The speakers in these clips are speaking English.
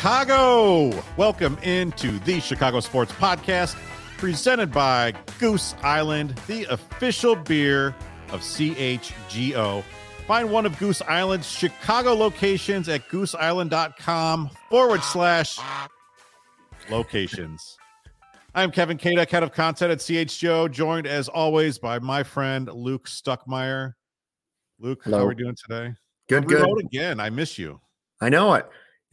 Chicago. Welcome into the Chicago Sports Podcast, presented by Goose Island, the official beer of CHGO. Find one of Goose Island's Chicago locations at gooseisland.com/locations. I'm Kevin Kadek, head of content at CHGO, joined as always by my friend Luke Stuckmeyer. Luke, hello. How are we doing today? Good. Again. I miss you. I know it.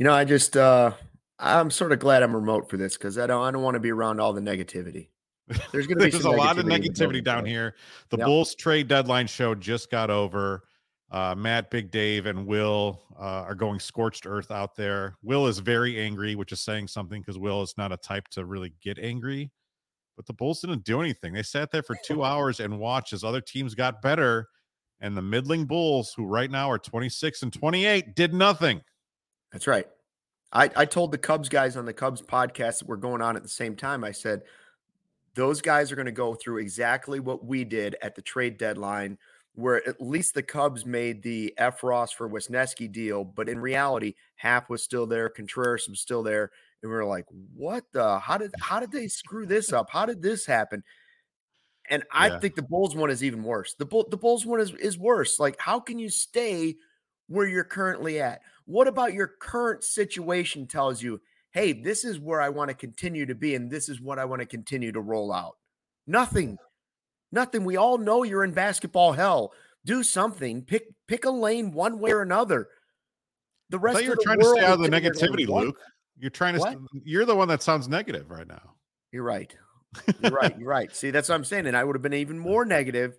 I'm sort of glad I'm remote for this because I don't want to be around all the negativity. There's going to be a lot of negativity down here. The Bulls trade deadline show just got over. Matt, Big Dave, and Will are going scorched earth out there. Will is very angry, which is saying something because Will is not a type to really get angry. But the Bulls didn't do anything. They sat there for 2 hours and watched as other teams got better. And the middling Bulls, who right now are 26 and 28, did nothing. That's right. I told the Cubs guys on the Cubs podcast that we're going on at the same time. I said, those guys are going to go through exactly what we did at the trade deadline, where at least the Cubs made the Ross for Wisniewski deal. But in reality, Happ was still there. Contreras was still there. And we were like, what how did they screw this up? How did this happen? And I think the Bulls one is even worse. The Bulls one is worse. Like, how can you stay where you're currently at? What about your current situation tells you, hey, this is where I want to continue to be, and this is what I want to continue to roll out? Nothing. We all know you're in basketball hell. Do something. Pick a lane one way or another. The rest of the world. You're trying to stay out of the negativity, Luke. You're trying to. You're the one that sounds negative right now. You're right. You're right. See, that's what I'm saying. And I would have been even more negative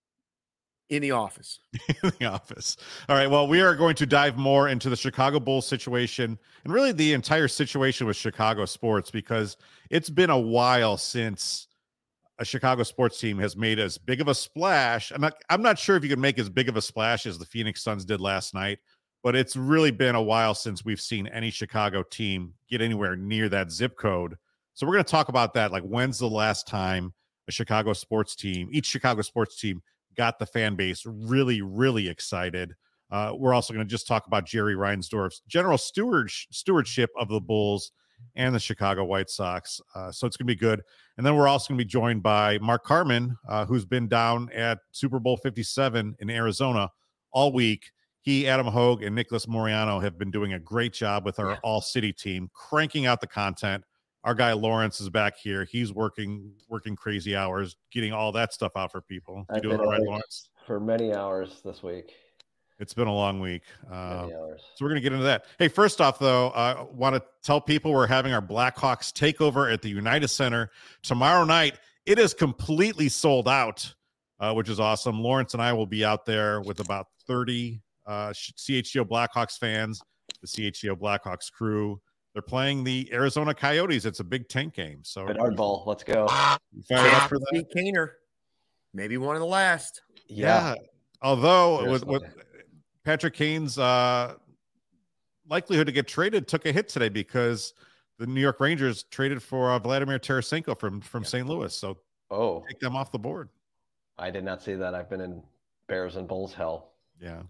in the office. All right. Well, we are going to dive more into the Chicago Bulls situation and really the entire situation with Chicago sports, because it's been a while since a Chicago sports team has made as big of a splash. I'm not sure if you can make as big of a splash as the Phoenix Suns did last night, but it's really been a while since we've seen any Chicago team get anywhere near that zip code. So we're going to talk about that. Like, when's the last time each Chicago sports team got the fan base really, really excited? We're also going to just talk about Jerry Reinsdorf's general stewardship of the Bulls and the Chicago White Sox. So it's going to be good. And then we're also going to be joined by Mark Carman, who's been down at Super Bowl 57 in Arizona all week. He, Adam Hogue, and Nicholas Moriano have been doing a great job with our all-city team, cranking out the content. Our guy Lawrence is back here. He's working crazy hours, getting all that stuff out for people. You doing all right, Lawrence? For many hours this week. It's been a long week. Many hours. So we're going to get into that. Hey, first off, though, I want to tell people we're having our Blackhawks takeover at the United Center tomorrow night. It is completely sold out, which is awesome. Lawrence and I will be out there with about 30 CHGO Blackhawks fans, the CHGO Blackhawks crew. They're playing the Arizona Coyotes. It's a Big Tank game. So Bedard Ball, let's go. You fired up for that? Kaner, maybe one of the last. Yeah. Although with Patrick Kane's likelihood to get traded took a hit today because the New York Rangers traded for Vladimir Tarasenko from St. Louis. So take them off the board. I did not see that. I've been in Bears and Bulls hell. Yeah.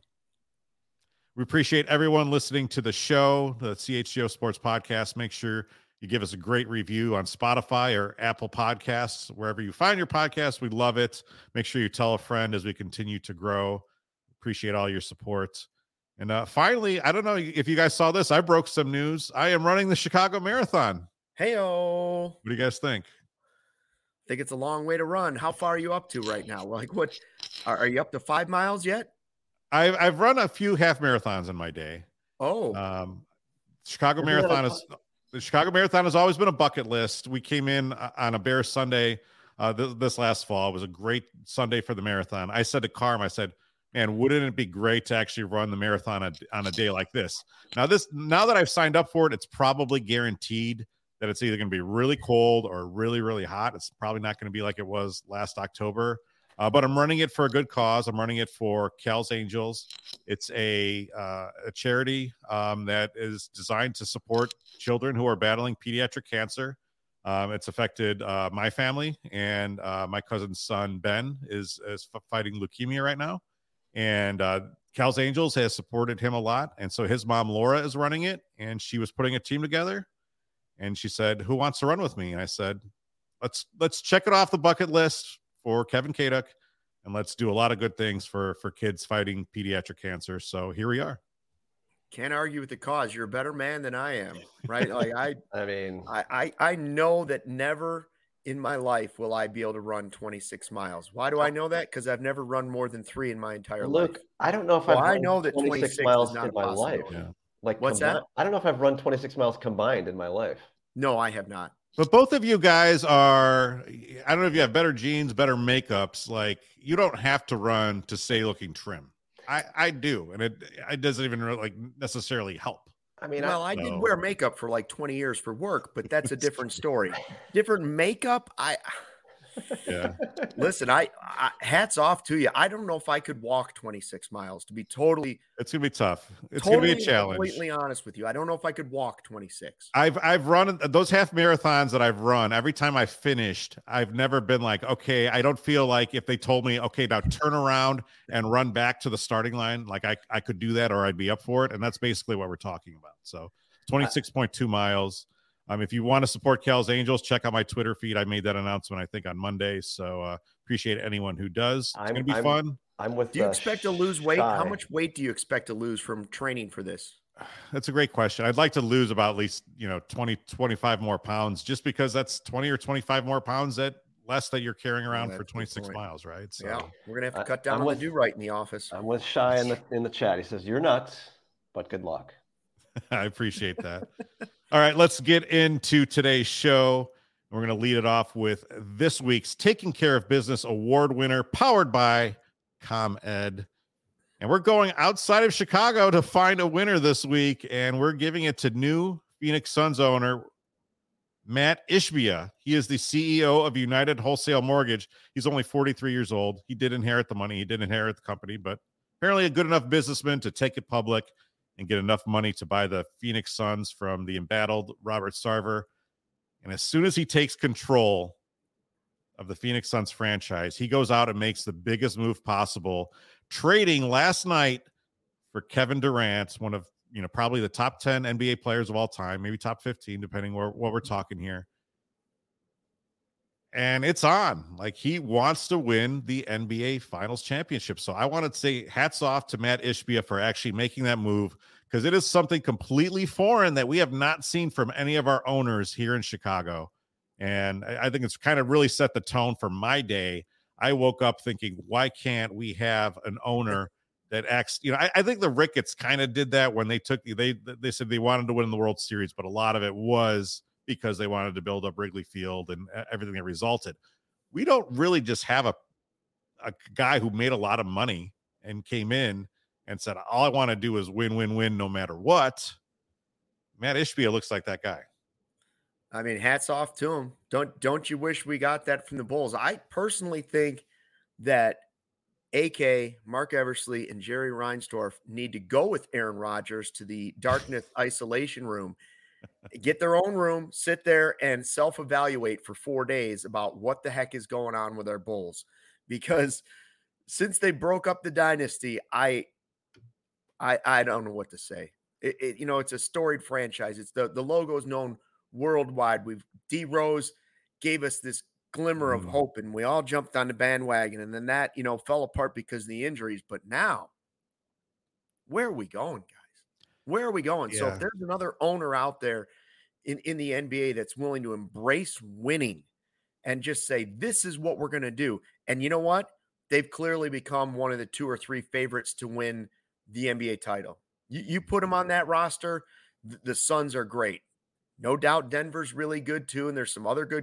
We appreciate everyone listening to the show, the CHGO Sports Podcast. Make sure you give us a great review on Spotify or Apple Podcasts, wherever you find your podcast. We love it. Make sure you tell a friend as we continue to grow. Appreciate all your support. And finally, I don't know if you guys saw this. I broke some news. I am running the Chicago Marathon. Hey-o. What do you guys think? I think it's a long way to run. How far are you up to right now? Like, what? Are you up to 5 miles yet? I've run a few half marathons in my day. The Chicago Marathon has always been a bucket list. We came in on a Bears Sunday this last fall. It was a great Sunday for the marathon. I said to Carm, I said, man, wouldn't it be great to actually run the marathon on a day like this? Now that I've signed up for it, it's probably guaranteed that it's either going to be really cold or really, really hot. It's probably not going to be like it was last October. But I'm running it for a good cause. I'm running it for Cal's Angels. It's a charity that is designed to support children who are battling pediatric cancer. It's affected my family, and my cousin's son, Ben, is fighting leukemia right now. And Cal's Angels has supported him a lot. And so his mom, Laura, is running it, and she was putting a team together. And she said, who wants to run with me? And I said, let's check it off the bucket list for Kevin Kaduk, and let's do a lot of good things for kids fighting pediatric cancer. So here we are. Can't argue with the cause. You're a better man than I am, right? Like I know that never in my life will I be able to run 26 miles. Why do I know that? Because I've never run more than 3 in my entire life. I don't know if I know that 26 miles is not in my life. Yeah. Like, what's that? I don't know if I've run 26 miles combined in my life. No, I have not. But both of you guys are, I don't know if you have better genes, better makeups. Like, you don't have to run to stay looking trim. I do. And it doesn't even really, like, necessarily help. I mean, well, I did wear makeup for like 20 years for work, but that's a different story. Different makeup. Yeah. Listen, I hats off to you. I don't know if I could walk 26 miles, to be totally. It's gonna be tough. It's gonna be a challenge. Completely honest with you, I don't know if I could walk 26. I've run those half marathons that I've run. Every time I finished, I've never been like, okay, I don't feel like if they told me, okay, now turn around and run back to the starting line, like I could do that, or I'd be up for it. And that's basically what we're talking about. So 26.2 miles. If you want to support Cal's Angels, check out my Twitter feed. I made that announcement, I think, on Monday. So appreciate anyone who does. It's going to be fun. Do you expect to lose weight? How much weight do you expect to lose from training for this? That's a great question. I'd like to lose about at least, 20, 25 more pounds, just because that's 20 or 25 more pounds that less that you're carrying around for 26 miles, right? So yeah, we're going to have to cut down on the do right in the office. I'm with Shy in the chat. He says, you're nuts, but good luck. I appreciate that. All right, let's get into today's show. We're going to lead it off with this week's Taking Care of Business Award winner, powered by ComEd. And we're going outside of Chicago to find a winner this week, and we're giving it to new Phoenix Suns owner, Mat Ishbia. He is the CEO of United Wholesale Mortgage. He's only 43 years old. He did inherit the money. He did inherit the company, but apparently a good enough businessman to take it public and get enough money to buy the Phoenix Suns from the embattled Robert Sarver. And as soon as he takes control of the Phoenix Suns franchise, he goes out and makes the biggest move possible, trading last night for Kevin Durant, one of, probably the top 10 NBA players of all time, maybe top 15, depending what we're talking here. And it's on. Like, he wants to win the NBA Finals championship. So I want to say hats off to Mat Ishbia for actually making that move, because it is something completely foreign that we have not seen from any of our owners here in Chicago. And I think it's kind of really set the tone for my day. I woke up thinking, why can't we have an owner that acts, I think the Ricketts kind of did that when they said they wanted to win the World Series, but a lot of it was because they wanted to build up Wrigley Field and everything that resulted. We don't really just have a guy who made a lot of money and came in and said, all I want to do is win, win, win, no matter what. Mat Ishbia looks like that guy. I mean, hats off to him. Don't you wish we got that from the Bulls? I personally think that AK, Mark Eversley, and Jerry Reinsdorf need to go with Aaron Rodgers to the Dartmouth isolation room, get their own room, sit there and self-evaluate for 4 days about what the heck is going on with our Bulls. Because since they broke up the dynasty, I don't know what to say. It's a storied franchise. It's the logo is known worldwide. D Rose gave us this glimmer of hope, and we all jumped on the bandwagon, and then that fell apart because of the injuries. But now, where are we going, guys? Where are we going? Yeah. So if there's another owner out there in the NBA that's willing to embrace winning and just say, this is what we're going to do. And you know what? They've clearly become one of the 2 or 3 favorites to win the NBA title. You put them on that roster, the Suns are great. No doubt Denver's really good too, and there's some other good.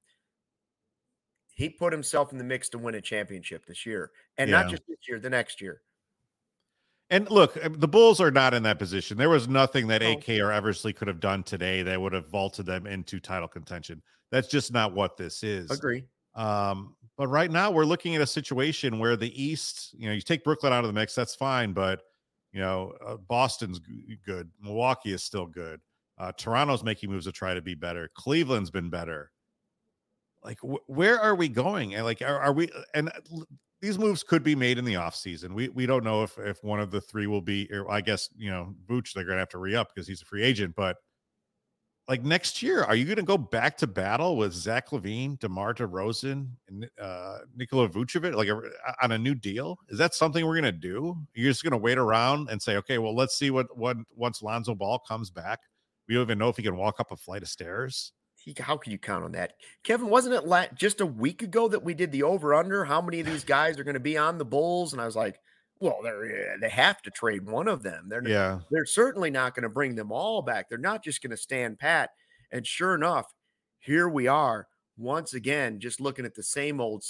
He put himself in the mix to win a championship this year, and not just this year, the next year. And look, the Bulls are not in that position. There was nothing that AK or Eversley could have done today that would have vaulted them into title contention. That's just not what this is. Agree. But right now we're looking at a situation where the East, you take Brooklyn out of the mix, that's fine. But, Boston's good. Milwaukee is still good. Toronto's making moves to try to be better. Cleveland's been better. Like, where are we going? And like, are we? And these moves could be made in the offseason. We don't know if one of the three will be, or I guess, Vooch, they're going to have to re-up because he's a free agent. But like next year, are you going to go back to battle with Zach LaVine, DeMar DeRozan, and Nikola Vucevic, like on a new deal? Is that something we're going to do? You're just going to wait around and say, okay, well, let's see what once Lonzo Ball comes back. We don't even know if he can walk up a flight of stairs. How can you count on that? Kevin, wasn't it just a week ago that we did the over-under? How many of these guys are going to be on the Bulls? And I was like, well, they have to trade one of them. They're certainly not going to bring them all back. They're not just going to stand pat. And sure enough, here we are once again, just looking at the same old.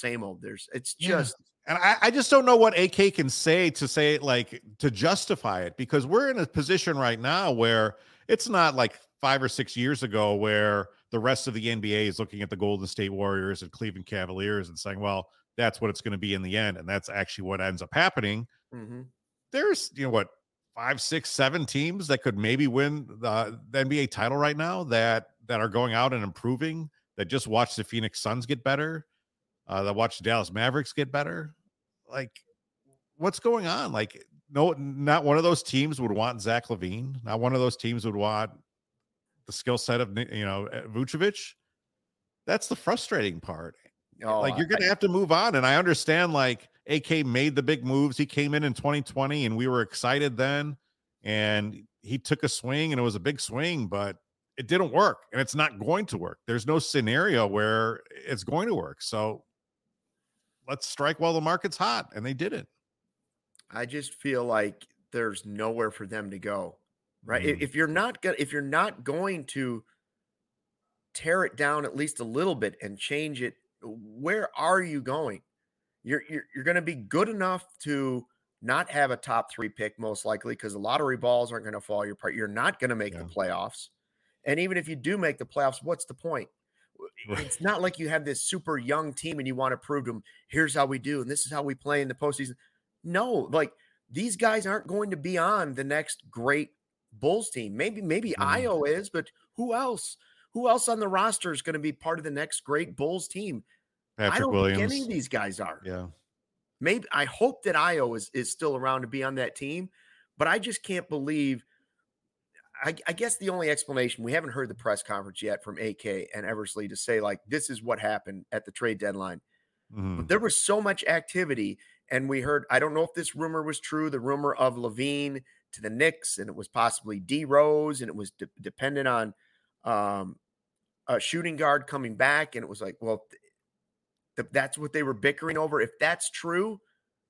And I just don't know what AK can say to justify it, because we're in a position right now where it's not like 5 or 6 years ago where the rest of the NBA is looking at the Golden State Warriors and Cleveland Cavaliers and saying, well, that's what it's going to be in the end. And that's actually what ends up happening. Mm-hmm. There's, 5, 6, 7 teams that could maybe win the NBA title right now that are going out and improving, that just watch the Phoenix Suns get better, that watch the Dallas Mavericks get better. Like, what's going on? Like, no, not one of those teams would want Zach LaVine. Not one of those teams would want the skill set of, Vucevic. That's the frustrating part. Like, you're going to have to move on. And I understand, like, AK made the big moves. He came in 2020 and we were excited then, and he took a swing and it was a big swing, but it didn't work and it's not going to work. There's no scenario where it's going to work. So let's strike while the market's hot. And they didn't. I just feel like there's nowhere for them to go, right? Mm-hmm. If you're not going to tear it down at least a little bit and change it, where are you going? You're going to be good enough to not have a top 3 pick, most likely, because the lottery balls aren't going to fall your part. You're not going to make the playoffs. And even if you do make the playoffs, what's the point? Right. It's not like you have this super young team and you want to prove to them, here's how we do, and this is how we play in the postseason. No, like, these guys aren't going to be on the next great Bulls team. Maybe Ayo is, but who else? Who else on the roster is going to be part of the next great Bulls team? Patrick Williams. Think any of these guys are. Yeah. Maybe I hope that Ayo is still around to be on that team, but I just can't believe. I guess the only explanation, we haven't heard the press conference yet from AK and Eversley to say, like, this is what happened at the trade deadline. Mm-hmm. But there was so much activity, and we heard, I don't know if this rumor was true, the rumor of LaVine to the Knicks, and it was possibly D Rose, and it was dependent on a shooting guard coming back, and it was like, well, that's what they were bickering over. If that's true,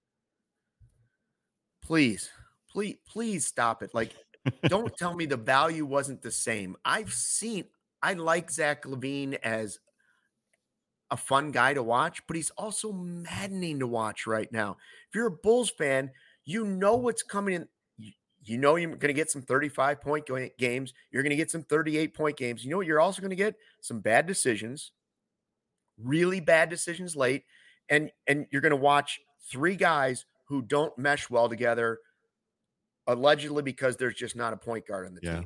please stop it. Like, don't tell me the value wasn't the same. I like Zach LaVine as a fun guy to watch, but he's also maddening to watch right now. If you're a Bulls fan, you know what's coming in. You know you're going to get some 35-point games. You're going to get some 38-point games. You know what you're also going to get? Some bad decisions, really bad decisions late, and you're going to watch 3 guys who don't mesh well together, allegedly because there's just not a point guard on the team.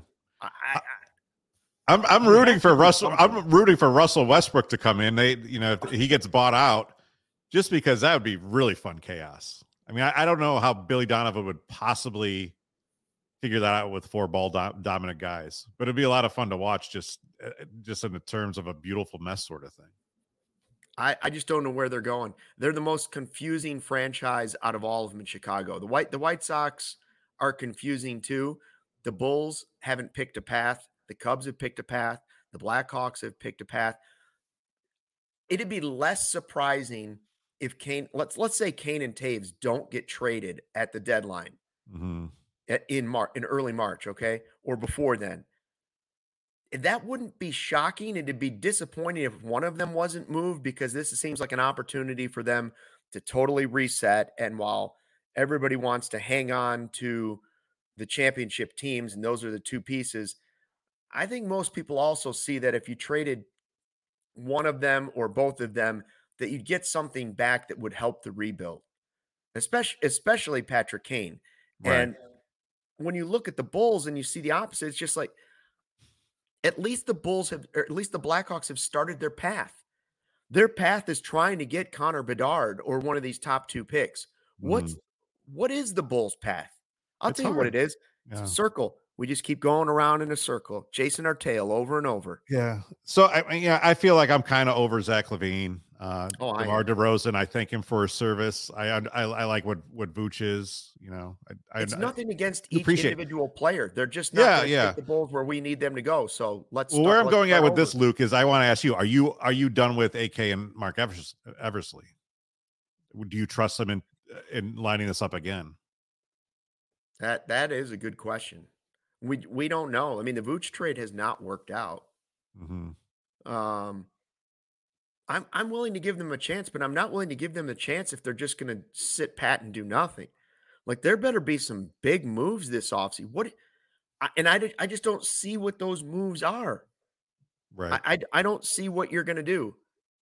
I'm rooting for Russell. I'm rooting for Russell Westbrook to come in. If he gets bought out, just because that would be really fun chaos. I mean, I don't know how Billy Donovan would possibly figure that out with 4 ball dominant guys, but it'd be a lot of fun to watch, just in the terms of a beautiful mess sort of thing. I just don't know where they're going. They're the most confusing franchise out of all of them in Chicago. The White Sox are confusing too. The Bulls haven't picked a path. The Cubs have picked a path. The Blackhawks have picked a path. It'd be less surprising if let's say Kane and Taves don't get traded at the deadline in early March, okay, or before then. That wouldn't be shocking. It'd be disappointing if one of them wasn't moved, because this seems like an opportunity for them to totally reset. And while everybody wants to hang on to the championship teams, and those are the 2 pieces, I think most people also see that if you traded one of them or both of them, that you'd get something back that would help the rebuild, especially Patrick Kane. Right. And when you look at the Bulls and you see the opposite, it's just like, at least the Bulls have, or at least the Blackhawks have started their path. Their path is trying to get Connor Bedard or one of these top 2 picks. Mhm. What is the Bulls' path? I'll It's tell you what hard. it is. It's a Yeah. circle. We just keep going around in a circle, chasing our tail over and over. Yeah. So I feel like I'm kind of over Zach LaVine. Oh, I DeMar am. DeRozan, I thank him for his service. I like what Vooch is. It's nothing against each appreciate. individual player. They're just not Yeah, going to yeah. take the Bulls where we need them to go. So let's Well, where I'm let's going start at with over. this, Luke, is I want to ask you: Are you done with AK and Mark Eversley? Do you trust them in lining this up again? That is a good question. We don't know. I mean, the Vooch trade has not worked out. Mm-hmm. Um, I'm willing to give them a chance, but I'm not willing to give them a chance if they're just going to sit pat and do nothing. Like there better be some big moves this offseason. I just don't see what those moves are. Right. I don't see what you're going to do.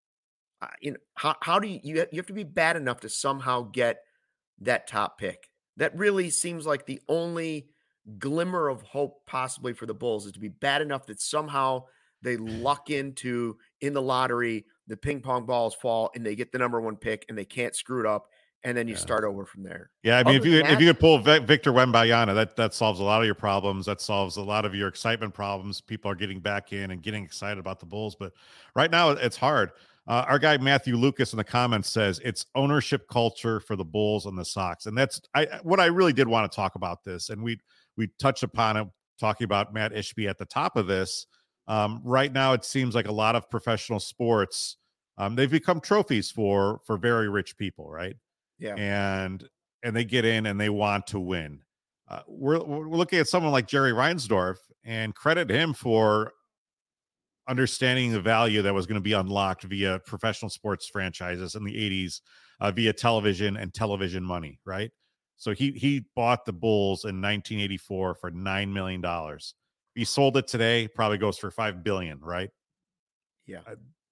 How do you have to be bad enough to somehow get that top pick? That really seems like the only glimmer of hope possibly for the Bulls is to be bad enough that somehow they luck into in the lottery, the ping pong balls fall and they get the number 1 pick and they can't screw it up. And then you start over from there. Yeah, I mean, Other than if you could pull Victor Wembanyama, that solves a lot of your problems. That solves a lot of your excitement problems. People are getting back in and getting excited about the Bulls, but right now it's hard. Our guy Matthew Lucas in the comments says it's ownership culture for the Bulls and the Sox, and that's what I really did want to talk about this, and we touched upon it talking about Matt Ishby at the top of this. Right now, it seems like a lot of professional sports they've become trophies for very rich people, right? Yeah. And they get in and they want to win. We're looking at someone like Jerry Reinsdorf and credit him for understanding the value that was going to be unlocked via professional sports franchises in the 80s via television and television money, right? So he bought the Bulls in 1984 for $9 million. He sold it today, probably goes for $5 billion, right? Yeah.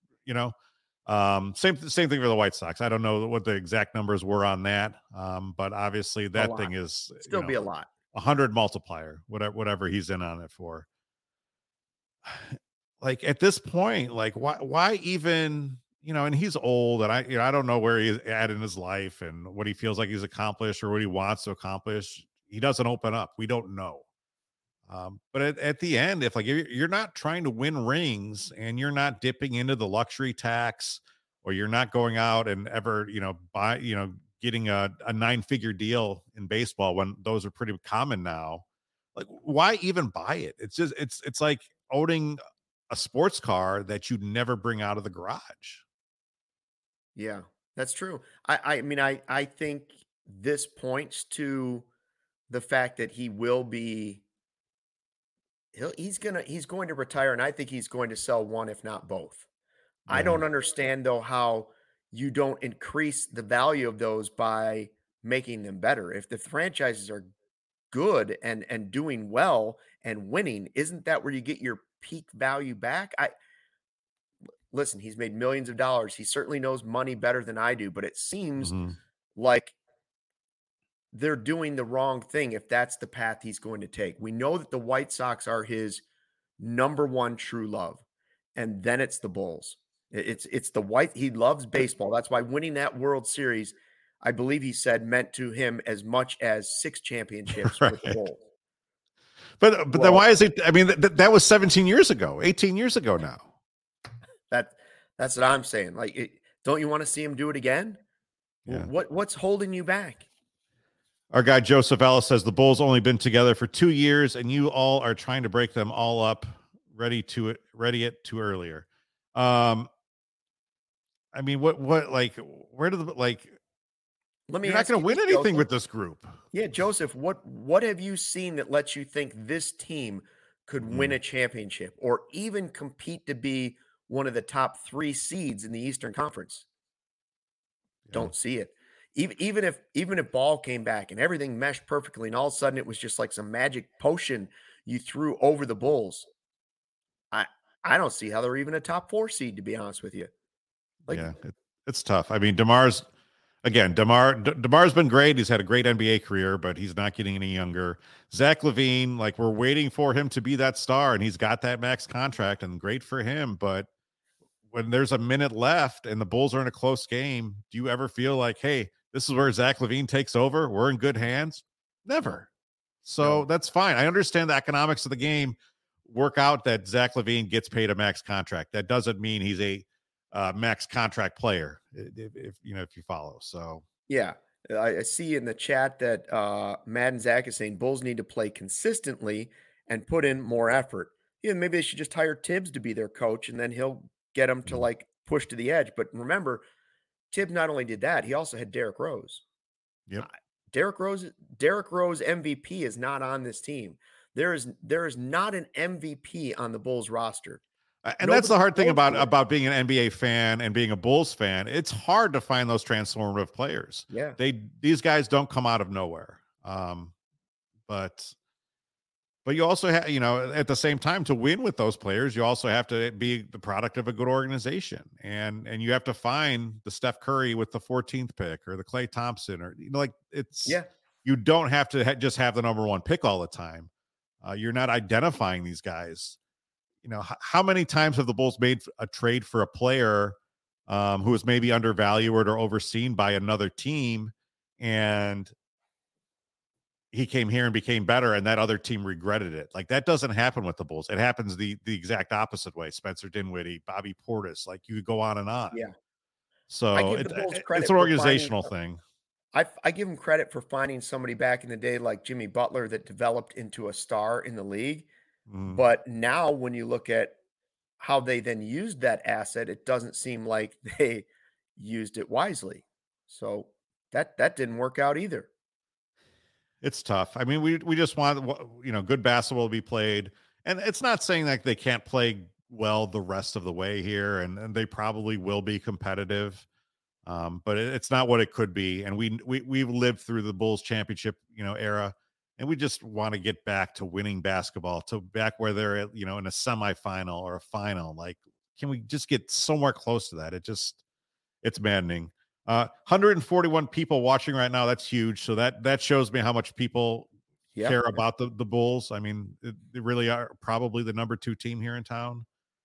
Same thing for the White Sox. I don't know what the exact numbers were on that, but obviously that thing is still be a lot. 100 multiplier, whatever he's in on it for. Like at this point, like why even, and he's old and I don't know where he's at in his life and what he feels like he's accomplished or what he wants to accomplish. He doesn't open up. We don't know. But at the end, if you're not trying to win rings and you're not dipping into the luxury tax, or you're not going out and ever, getting a 9-figure deal in baseball when those are pretty common now, like why even buy it? It's just, it's like owning a sports car that you'd never bring out of the garage. Yeah, that's true. I mean, I think this points to the fact that he will be he's going to retire, and I think he's going to sell one, if not both. I Yeah. don't understand though how you don't increase the value of those by making them better. If the franchises are good and doing well and winning, isn't that where you get your peak value back? Listen, he's made millions of dollars. He certainly knows money better than I do, but it seems Mhm. like they're doing the wrong thing if that's the path he's going to take. We know that the White Sox are his number 1 true love, and then it's the Bulls. It's the white. He loves baseball. That's why winning that World Series, I believe he said, meant to him as much as 6 championships with the Bulls. But then why is it? I mean, that was 17 years ago, 18 years ago now. That's what I'm saying. Like, don't you want to see him do it again? Yeah. What's holding you back? Our guy Joseph Ellis says the Bulls only been together for 2 years, and you all are trying to break them all up. Ready it too earlier. I mean, what like where do the like? Let me. You're not going to win anything with this group. Yeah, Joseph. What have you seen that lets you think this team could win a championship or even compete to be one of the top 3 seeds in the Eastern Conference? Yeah. Don't see it. Even if Ball came back and everything meshed perfectly, and all of a sudden it was just like some magic potion you threw over the Bulls, I don't see how they're even a top 4 seed, to be honest with you. It's tough. I mean, DeMar's been great. He's had a great NBA career, but he's not getting any younger. Zach LaVine, like we're waiting for him to be that star, and he's got that max contract, and great for him. But when there's a minute left and the Bulls are in a close game, do you ever feel like, hey, this is where Zach LaVine takes over? We're in good hands? Never. So that's fine. I understand the economics of the game work out that Zach LaVine gets paid a max contract. That doesn't mean he's a max contract player, if you follow. So yeah, I see in the chat that Madden Zach is saying Bulls need to play consistently and put in more effort. Yeah, maybe they should just hire Tibbs to be their coach, and then he'll get them to like push to the edge. But remember, Tibbs not only did that, he also had Derrick Rose. Yep. Derrick Rose MVP is not on this team. There is not an MVP on the Bulls roster. And that's the hard thing about being an NBA fan and being a Bulls fan. It's hard to find those transformative players. Yeah. These guys don't come out of nowhere. But you also have, at the same time, to win with those players, you also have to be the product of a good organization. And you have to find the Steph Curry with the 14th pick or the Klay Thompson or, you don't have to just have the number one pick all the time. You're not identifying these guys. How many times have the Bulls made a trade for a player who was maybe undervalued or overseen by another team, and he came here and became better, and that other team regretted it? Like, that doesn't happen with the Bulls. It happens the exact opposite way. Spencer Dinwiddie, Bobby Portis, like, you could go on and on. Yeah. So it's an organizational thing. I give them credit for finding somebody back in the day like Jimmy Butler that developed into a star in the league. But now when you look at how they then used that asset, it doesn't seem like they used it wisely. So that didn't work out either. It's tough. I mean, we just want, good basketball to be played. And it's not saying that they can't play well the rest of the way here, and they probably will be competitive. But it's not what it could be. And we've lived through the Bulls championship, era. And we just want to get back to winning basketball, to back where they're at, in a semifinal or a final. Like, can we just get somewhere close to that? It's maddening. 141 people watching right now. That's huge. So that shows me how much people care about the Bulls. I mean, they really are probably the number 2 team here in town.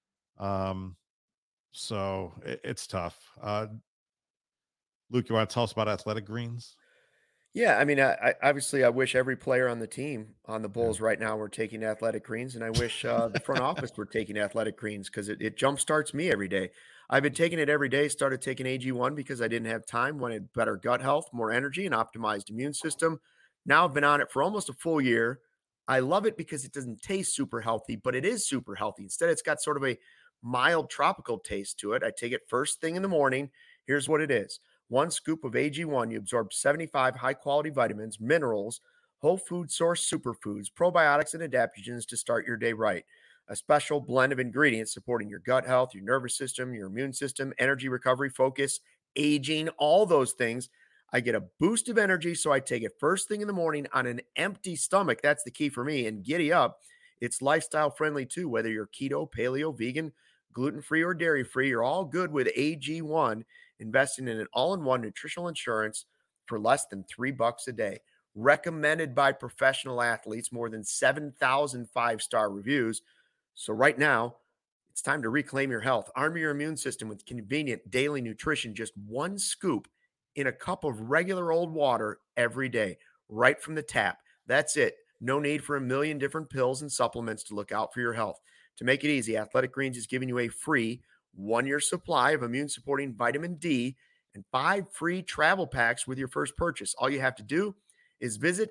So it's tough. Luke, you want to tell us about Athletic Greens? Yeah, I mean, I wish every player on the team on the Bulls right now were taking Athletic Greens, and I wish the front office were taking Athletic Greens because it jumpstarts me every day. I've been taking it every day. Started taking AG1 because I didn't have time, wanted better gut health, more energy, and optimized immune system. Now I've been on it for almost a full year. I love it because it doesn't taste super healthy, but it is super healthy. Instead, it's got sort of a mild tropical taste to it. I take it first thing in the morning. Here's what it is. 1 scoop of AG1, you absorb 75 high-quality vitamins, minerals, whole food source superfoods, probiotics, and adaptogens to start your day right. A special blend of ingredients supporting your gut health, your nervous system, your immune system, energy recovery, focus, aging, all those things. I get a boost of energy, so I take it first thing in the morning on an empty stomach. That's the key for me. And giddy up. It's lifestyle friendly too, whether you're keto, paleo, vegan, gluten-free, or dairy-free. You're all good with AG1. Investing in an all-in-one nutritional insurance for less than $3 a day. Recommended by professional athletes, more than 7,000 5-star reviews. So right now, it's time to reclaim your health. Arm your immune system with convenient daily nutrition, just 1 scoop in a cup of regular old water every day, right from the tap. That's it. No need for a million different pills and supplements to look out for your health. To make it easy, Athletic Greens is giving you a free 1-year supply of immune-supporting vitamin D and 5 free travel packs with your first purchase. All you have to do is visit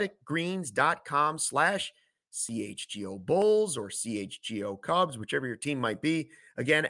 athleticgreens.com/CHGO Bulls or CHGO Cubs, whichever your team might be. Again,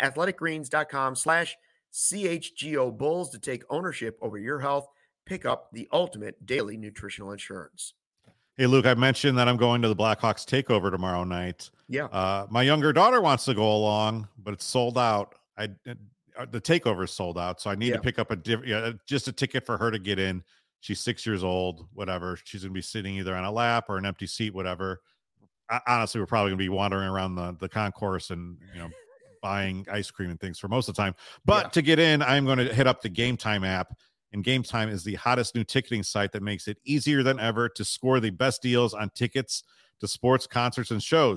athleticgreens.com/CHGO Bulls to take ownership over your health. Pick up the ultimate daily nutritional insurance. Hey, Luke, I mentioned that I'm going to the Blackhawks takeover tomorrow night. Yeah. My younger daughter wants to go along, but it's sold out. The takeover is sold out. So I need to pick up just a ticket for her to get in. She's 6 years old, whatever. She's going to be sitting either on a lap or an empty seat, whatever. Honestly, we're probably going to be wandering around the concourse and, buying ice cream and things for most of the time. But to get in, I'm going to hit up the Game Time app. And Game Time is the hottest new ticketing site that makes it easier than ever to score the best deals on tickets to sports, concerts, and shows.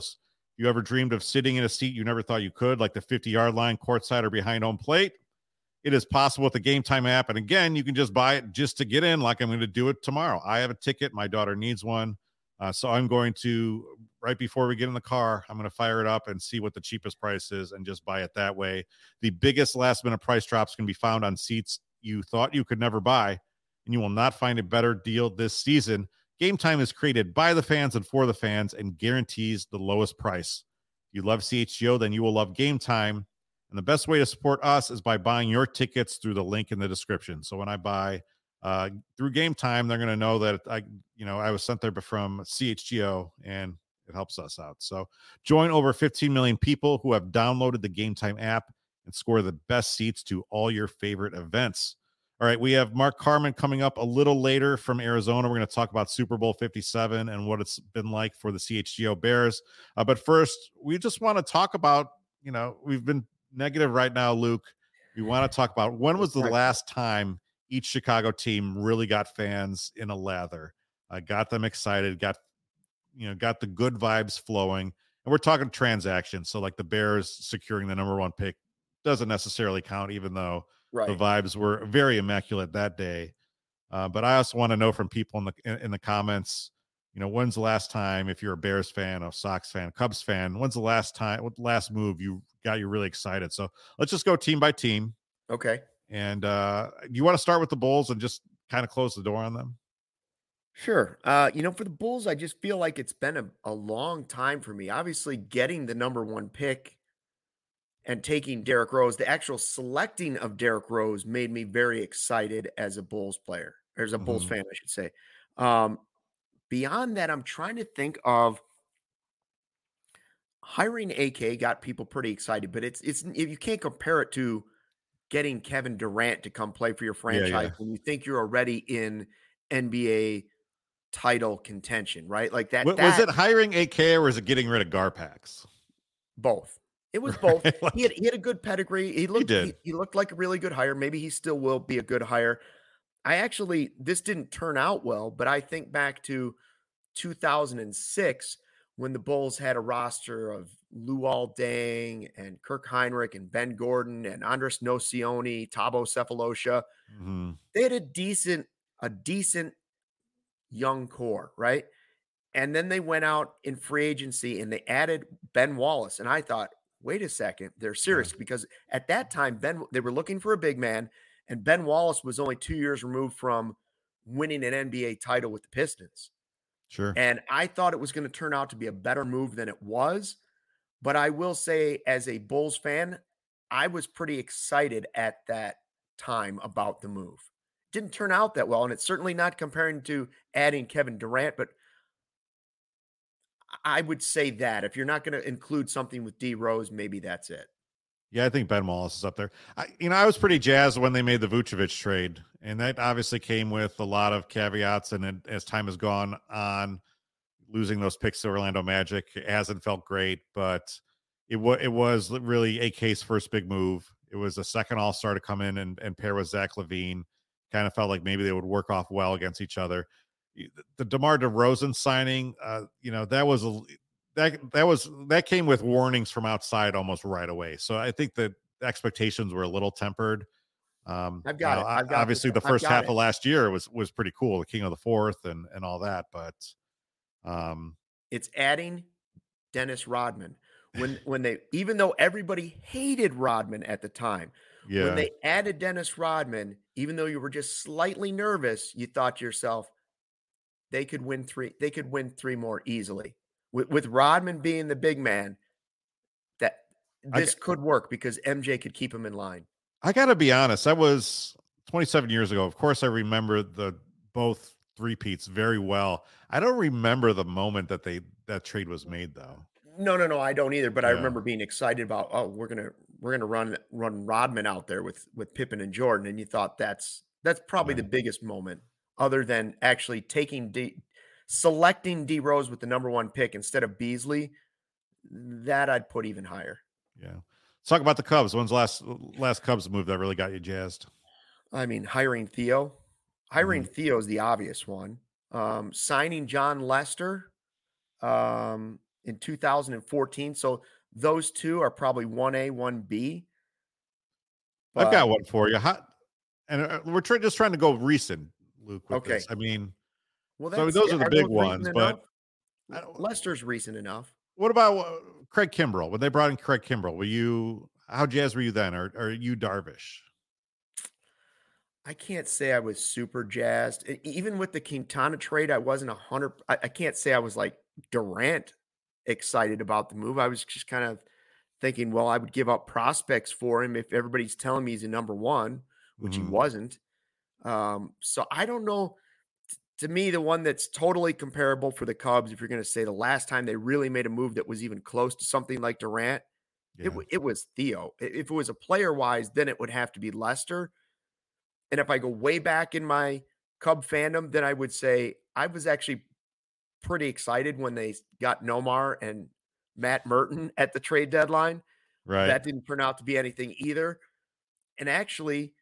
You ever dreamed of sitting in a seat you never thought you could, like the 50-yard line, courtside, or behind home plate? It is possible with the Game Time app. And again, you can just buy it just to get in, like I'm going to do it tomorrow. I have a ticket. My daughter needs one. So I'm going to, right before we get in the car, I'm going to fire it up and see what the cheapest price is and just buy it that way. The biggest last minute price drops can be found on seats you thought you could never buy, and you will not find a better deal this season. Game Time is created by the fans and for the fans and guarantees the lowest price. If you love CHGO, then you will love Game Time. And the best way to support us is by buying your tickets through the link in the description. So when I buy through Game Time, they're going to know that I was sent there from CHGO, and it helps us out. So join over 15 million people who have downloaded the Game Time app and score the best seats to all your favorite events. All right, we have Mark Carman coming up a little later from Arizona. We're going to talk about Super Bowl 57 and what it's been like for the CHGO Bears. But first, we just want to talk about, we've been negative right now, Luke. We want to talk about when was the last time each Chicago team really got fans in a lather, got them excited, got the good vibes flowing. And we're talking transactions. So like the Bears securing the number 1 pick doesn't necessarily count, even though the vibes were very immaculate that day. But I also want to know from people in the comments, when's the last time, if you're a Bears fan, a Sox fan, Cubs fan, when's the last move you got you really excited? So let's just go team by team. Okay. And you want to start with the Bulls and just kind of close the door on them? Sure. For the Bulls, I just feel like it's been a long time for me. Obviously, getting the number 1 pick and taking Derrick Rose, the actual selecting of Derrick Rose made me very excited as a Bulls player, or as a Bulls fan, I should say. Beyond that, I'm trying to think of hiring AK got people pretty excited, but it's you can't compare it to getting Kevin Durant to come play for your franchise when you think you're already in NBA title contention, right? Like that. Was it hiring AK or was it getting rid of Garpax? Both. It was both. He had a good pedigree. He looked like a really good hire. Maybe he still will be a good hire. This didn't turn out well, but I think back to 2006 when the Bulls had a roster of Luol Deng and Kirk Heinrich and Ben Gordon and Andres Nocioni, Thabo Sefolosha. Mm-hmm. They had a decent young core, right? And then they went out in free agency and they added Ben Wallace. And I thought, wait a second, they're serious because at that time, they were looking for a big man, and Ben Wallace was only 2 years removed from winning an NBA title with the Pistons. Sure. And I thought it was going to turn out to be a better move than it was. But I will say, as a Bulls fan, I was pretty excited at that time about the move. Didn't turn out that well, and it's certainly not comparing to adding Kevin Durant, but I would say that if you're not going to include something with D Rose, maybe that's it. Yeah, I think Ben Wallace is up there. I was pretty jazzed when they made the Vucevic trade, and that obviously came with a lot of caveats. And as time has gone on, losing those picks to Orlando Magic, it hasn't felt great, but it was really AK's first big move. It was a second All-Star to come in and pair with Zach LaVine. Kind of felt like maybe they would work off well against each other. The DeMar DeRozan signing, that came with warnings from outside almost right away. So I think the expectations were a little tempered. Obviously, the first half of last year was pretty cool, the King of the Fourth and all that. But it's adding Dennis Rodman when they, even though everybody hated Rodman at the time, when they added Dennis Rodman, even though you were just slightly nervous, you thought to yourself, they could win 3. They could win 3 more easily. With Rodman being the big man, that this could work because MJ could keep him in line. I got to be honest. That was 27 years ago. Of course, I remember both three-peats very well. I don't remember the moment that trade was made, though. No, I don't either. But I remember being excited about, we're gonna run Rodman out there with Pippen and Jordan, and you thought that's probably the biggest moment, other than actually selecting D Rose with the number 1 pick instead of Beasley. That I'd put even higher. Yeah. Let's talk about the Cubs. When's last Cubs move that really got you jazzed? I mean, hiring Theo. Theo is the obvious one. Signing John Lester. in 2014. So those two are probably 1A, 1B. I've got But one for you. We're just trying to go recent, Luke, with okay. this. I mean, Well, so those are the are big those recent ones, but enough? Lester's recent enough. what about Craig Kimbrell? When they brought in Craig Kimbrell, how jazzed were you then? Or are you Darvish? I can't say I was super jazzed. Even with the Quintana trade, I wasn't 100. I can't say I was like Durant excited about the move. I was just kind of thinking, well, I would give up prospects for him if everybody's telling me he's a number one, which he Mhm. wasn't. So I don't know. To me, the one that's totally comparable for the Cubs, if you're going to say the last time they really made a move that was even close to something like Durant, Yeah. it was Theo. If it was a player wise, then it would have to be Lester. And if I go way back in my Cub fandom, then I would say I was actually pretty excited when they got Nomar and Matt Merton at the trade deadline. Right. That didn't turn out to be anything either. And actually,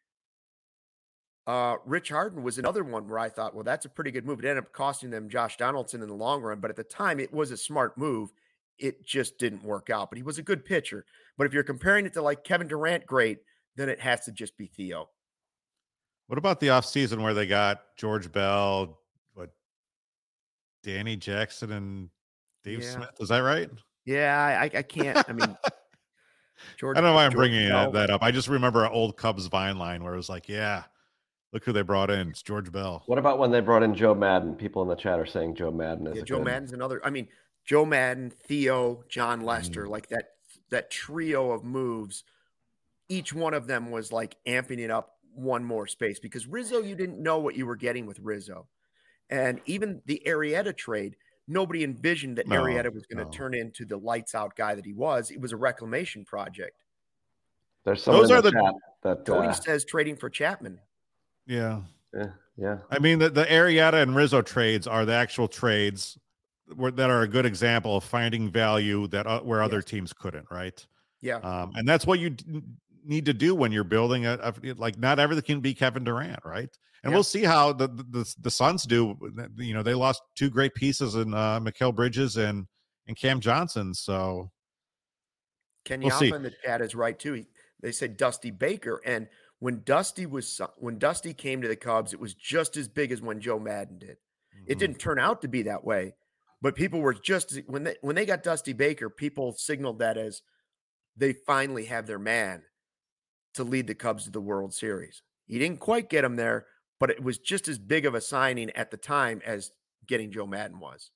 Rich Harden was another one where I thought, well, that's a pretty good move. It ended up costing them Josh Donaldson in the long run, but at the time, it was a smart move. It just didn't work out. But he was a good pitcher. But if you're comparing it to like Kevin Durant, great, then it has to just be Theo. What about the offseason where they got George Bell, Danny Jackson, and Dave Yeah. Smith? Is that right? Yeah, I can't. I mean, I don't know why I'm George bringing Bell. that up. I just remember an old Cubs Vine line where it was like, yeah, look who they brought in. It's George Bell. What about when they brought in Joe Madden? People in the chat are saying Joe Madden is Yeah, a Joe good. Madden's another. I mean, Joe Madden, Theo, John Lester, Mm. like that trio of moves. Each one of them was like amping it up one more space because Rizzo, you didn't know what you were getting with Rizzo. And even the Arrieta trade, nobody envisioned that Arrieta was going to turn into the lights out guy that he was. It was a reclamation project. There's someone Those in are the the chat that Cody says trading for Chapman. yeah. Yeah. I mean, the Arrieta and Rizzo trades are the actual trades that are a good example of finding value that where other Yes. teams couldn't, right? Yeah. And that's what you need to do when you're building like not everything can be Kevin Durant, right? And Yeah. we'll see how the Suns do. You know, they lost two great pieces in Mikal Bridges and Cam Johnson, so Ken we'll see. Yaffa in the chat is right too. They said Dusty Baker, and when Dusty came to the Cubs, it was just as big as when Joe Madden did. It Mhm. didn't turn out to be that way, but people were just when they got Dusty Baker, people signaled that as they finally have their man to lead the Cubs to the World Series. He didn't quite get him there, but it was just as big of a signing at the time as getting Joe Madden was.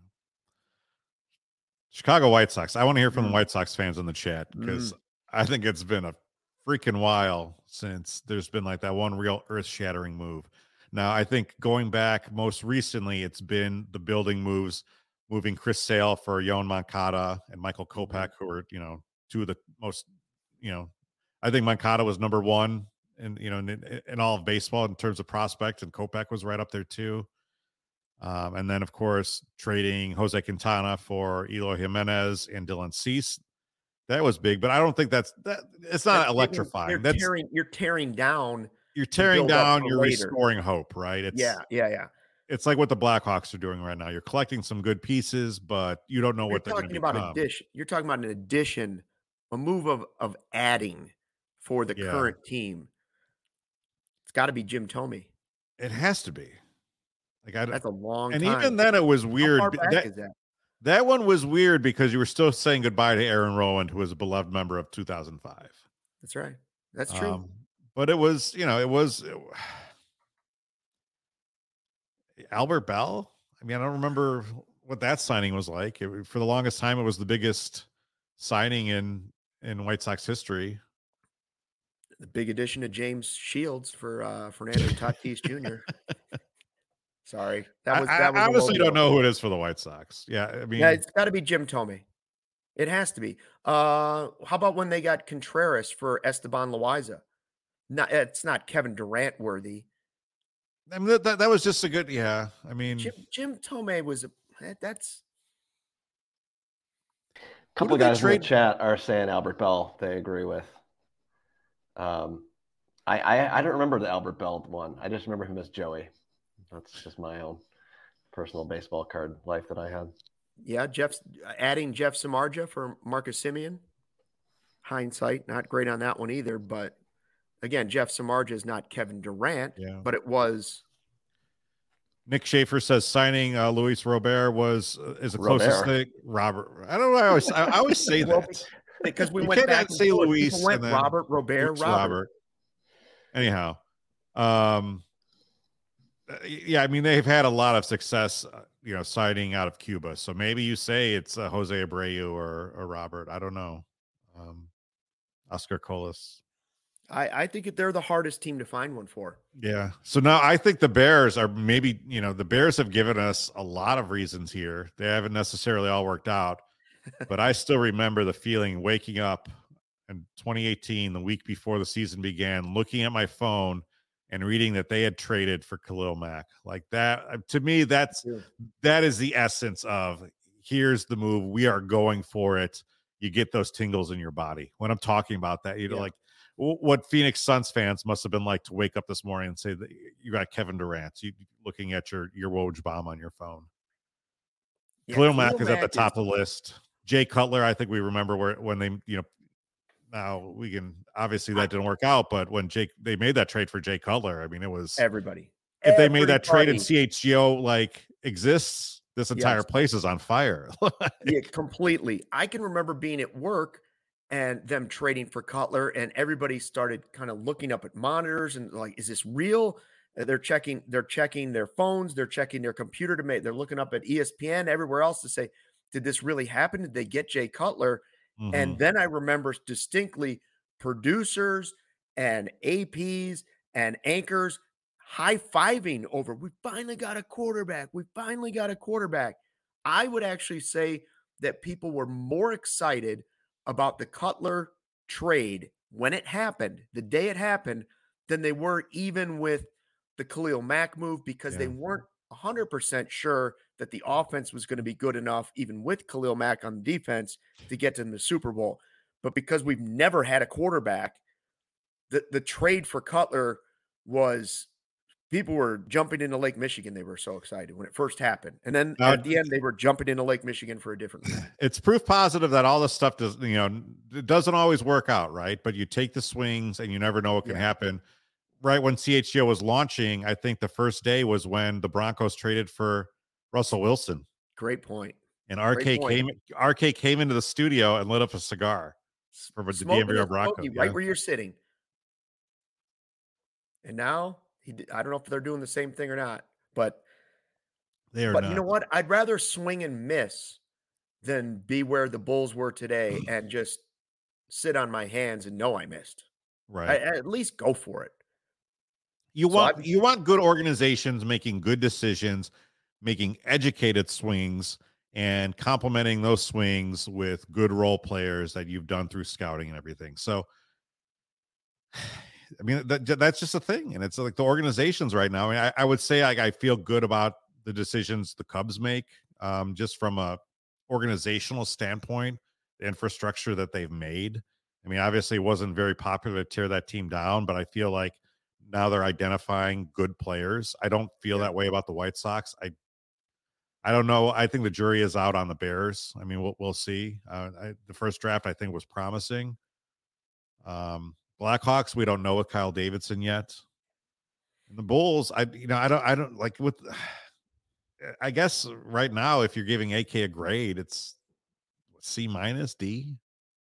Chicago White Sox. I want to hear from the White Sox fans in the chat because I think it's been a freaking while since there's been like that one real earth-shattering move. Now, I think going back most recently, it's been the building moves, moving Chris Sale for Yoan Moncada and Michael Kopech, who are, two of the most, I think Moncada was number one in all of baseball in terms of prospects, and Kopech was right up there too. And then, of course, trading Jose Quintana for Eloy Jimenez and Dylan Cease. That was big, but I don't think that's it's not electrifying. You're tearing down. You're tearing down, you're later. restoring hope, right? Yeah. It's like what the Blackhawks are doing right now. You're collecting some good pieces, but you don't know what they're going to become. You're talking about an addition, a move of adding for the current team. It's got to be Jim Thome. It has to be. That's a long time. And even then, it was weird. How far back is that? That one was weird because you were still saying goodbye to Aaron Rowand, who was a beloved member of 2005. That's right. That's true. But it was, Albert Bell. I mean, I don't remember what that signing was like. For the longest time, it was the biggest signing in White Sox history. The big addition to James Shields for Fernando Tatis Jr. Sorry, I honestly don't know who it is for the White Sox. Yeah, I mean, it's got to be Jim Thome. It has to be. How about when they got Contreras for Esteban Loaiza? No, it's not Kevin Durant worthy. I mean, that was just a good. Yeah, I mean, Jim Thome was that's. A couple of guys in the chat are saying Albert Bell. They agree with. I don't remember the Albert Bell one. I just remember him as Joey. That's just my own personal baseball card life that I had. Yeah, adding Jeff Samardzija for Marcus Semien. Hindsight, not great on that one either. But again, Jeff Samardzija is not Kevin Durant, but it was. Nick Schaefer says signing Luis Robert is the closest thing. Robert, I don't know. I always say that because we went back and say Luis and then Robert. Anyhow, yeah, I mean they've had a lot of success, signing out of Cuba. So maybe you say it's Jose Abreu or Robert. I don't know. Oscar Colas. I think they're the hardest team to find one for. Yeah. So now I think the Bears are maybe, the Bears have given us a lot of reasons here. They haven't necessarily all worked out, but I still remember the feeling waking up in 2018, the week before the season began, looking at my phone and reading that they had traded for Khalil Mack. Like that, to me, that is the essence of here's the move. We are going for it. You get those tingles in your body when I'm talking about that. Like what Phoenix Suns fans must have been like to wake up this morning and say that you got Kevin Durant, you looking at your Woj bomb on your phone. Khalil Mack is at the top of the list. Jay Cutler, I think we remember when they, now we can obviously that didn't work out, but when they made that trade for Jay Cutler, I mean, it was everybody. If they made that trade and CHGO exists, this entire place is on fire. Yeah, completely. I can remember being at work and them trading for Cutler, and everybody started kind of looking up at monitors and like, is this real? They're checking their phones, they're checking their computer they're looking up at ESPN, everywhere else to say, did this really happen? Did they get Jay Cutler? Mm-hmm. And then I remember distinctly producers and APs and anchors high-fiving over, we finally got a quarterback. I would actually say that people were more excited about the Cutler trade when it happened, the day it happened, than they were even with the Khalil Mack move, because they weren't 100% sure that the offense was going to be good enough, even with Khalil Mack on the defense, to get to the Super Bowl. But because we've never had a quarterback, the trade for Cutler was, people were jumping into Lake Michigan. They were so excited when it first happened. And then at the end, they were jumping into Lake Michigan for a different reason. It's proof positive that all this stuff it doesn't always work out, right? But you take the swings and you never know what can happen. Right when CHGO was launching, I think the first day was when the Broncos traded for Russell Wilson. Great point. And RK came into the studio and lit up a cigar for the DMV Broncos. Right where you're sitting. And now I don't know if they're doing the same thing or not, but they are. But you know what? I'd rather swing and miss than be where the Bulls were today and just sit on my hands and know I missed. Right. At least go for it. You want good organizations making good decisions, making educated swings, and complementing those swings with good role players that you've done through scouting and everything. So, I mean, that's just a thing. And it's like the organizations right now. I mean, I would say I feel good about the decisions the Cubs make, just from a organizational standpoint, the infrastructure that they've made. I mean, obviously it wasn't very popular to tear that team down, but I feel like now they're identifying good players. I don't feel that way about the White Sox. I don't know. I think the jury is out on the Bears. I mean, we'll see. The first draft I think was promising. Blackhawks, we don't know with Kyle Davidson yet. And the Bulls, I don't like with. I guess right now, if you're giving AK a grade, it's C minus D.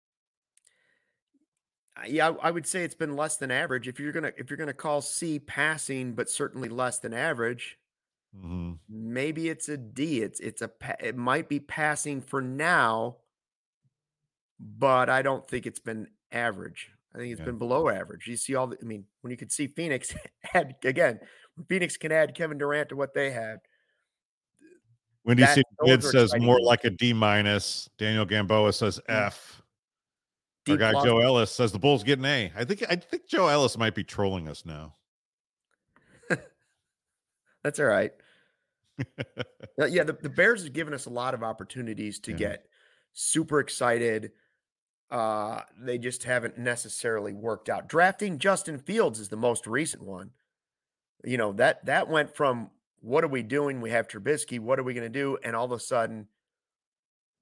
Yeah, I would say it's been less than average. If you're gonna call C passing, but certainly less than average, maybe it's a D. It might be passing for now, but I don't think it's been average. I think it's been below average. You see when you could see Phoenix when Phoenix can add Kevin Durant to what they had. Wendy Sid says more like a D minus. Daniel Gamboa says F. Our guy Joe Ellis says the Bulls get an A. I think Joe Ellis might be trolling us now. That's all right. Yeah, the Bears have given us a lot of opportunities to get super excited. They just haven't necessarily worked out. Drafting Justin Fields is the most recent one. That went from, what are we doing? We have Trubisky. What are we going to do? And all of a sudden,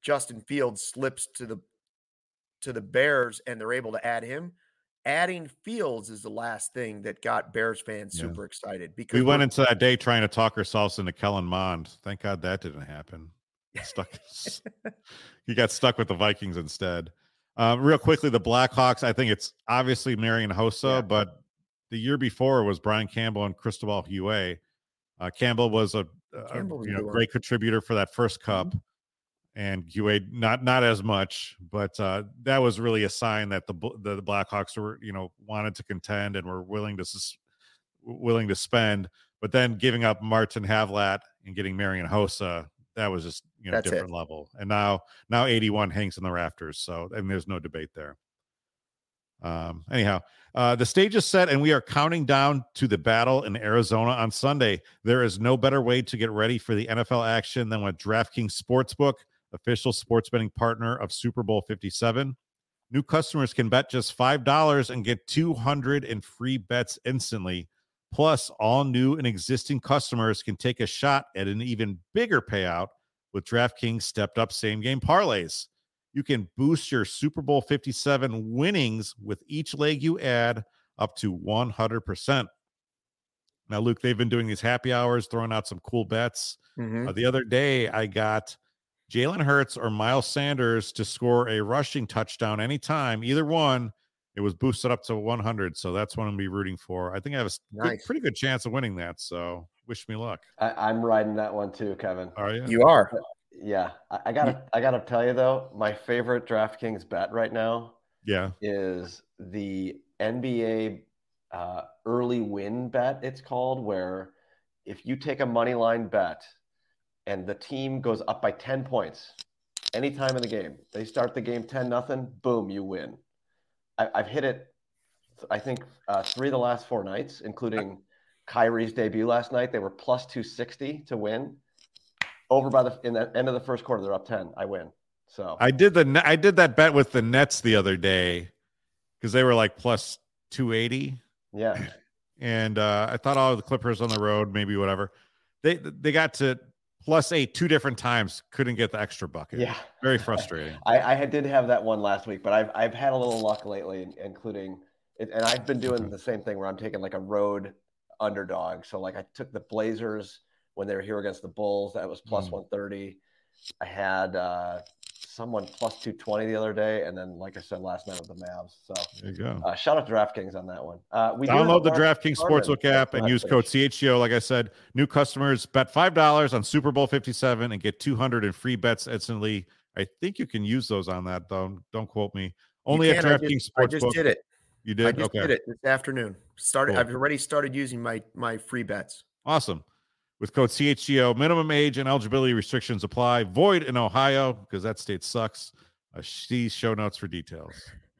Justin Fields slips to the Bears and they're able to add him. Adding Fields is the last thing that got Bears fans super excited, because we went into that day trying to talk ourselves into Kellen Mond. Thank God that didn't happen. He got stuck with the Vikings instead. Real quickly, the Blackhawks, I think it's obviously Marian Hossa, but the year before was Brian Campbell and Cristobal Huet. Campbell was a great contributor for that first cup, and Huet not as much, but that was really a sign that the Blackhawks were wanted to contend and were willing to spend. But then giving up Martin Havlat and getting Marian Hossa, that was just different level. And now 81 hangs in the rafters, so there's no debate there. Anyhow, the stage is set and we are counting down to the battle in Arizona on Sunday. There is no better way to get ready for the NFL action than with DraftKings Sportsbook, official sports betting partner of Super Bowl 57. New customers can bet just $5 and get 200 in free bets instantly. Plus, all new and existing customers can take a shot at an even bigger payout with DraftKings stepped-up same-game parlays. You can boost your Super Bowl 57 winnings with each leg you add up to 100%. Now, Luke, they've been doing these happy hours, throwing out some cool bets. The other day, I got Jalen Hurts or Miles Sanders to score a rushing touchdown anytime, either one. It was boosted up to 100, so that's what I'm going to be rooting for. I think I have a pretty good chance of winning that, so wish me luck. I'm riding that one too, Kevin. Are you? You are. Yeah. I gotta tell you, though, my favorite DraftKings bet right now is the NBA early win bet, it's called, where if you take a money line bet and the team goes up by 10 points anytime in the game, they start the game 10-0, boom, you win. I've hit it, I think, 3 of the last 4 nights, including Kyrie's debut last night. They were plus 260 to win. Over in the end of the first quarter, they're up 10. I win. So I did that bet with the Nets the other day because they were like plus 280. Yeah. And I thought all the Clippers on the road, maybe whatever. They got to plus 8 2 different times, couldn't get the extra bucket. Yeah. Very frustrating. I did have that one last week, but I've had a little luck lately, including it, and I've been doing the same thing where I'm taking like a road underdog. So like I took the Blazers when they were here against the Bulls. That was plus 130. I had someone plus 220 the other day, and then, like I said, last night with the Mavs. So there you go. Shout out to DraftKings on that one. We download the DraftKings Sportsbook app and use code CHGO. Like I said, new customers bet $5 on Super Bowl 57 and get 200 in free bets instantly. I think you can use those on that, though. Don't quote me. Only at DraftKings Sportsbook. I just did it. You did? I just did it this afternoon. Cool. I've already started using my free bets. Awesome. With code CHGO, minimum age and eligibility restrictions apply. Void in Ohio because that state sucks. See show notes for details.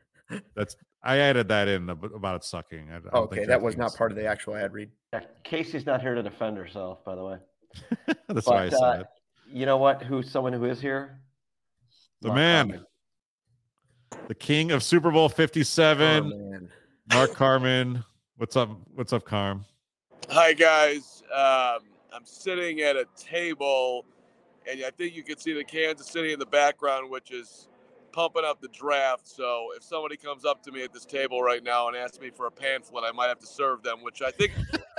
I added that in about it sucking. Okay, that was not part of the actual ad read. Yeah, Casey's not here to defend herself, by the way. That's why I said it. You know what? Someone who is here? The man. Carmen. The king of Super Bowl 57. Mark Carman. What's up? What's up, Carm? Hi, guys. I'm sitting at a table, and I think you can see the Kansas City in the background, which is pumping up the draft. So if somebody comes up to me at this table right now and asks me for a pamphlet, I might have to serve them, which I think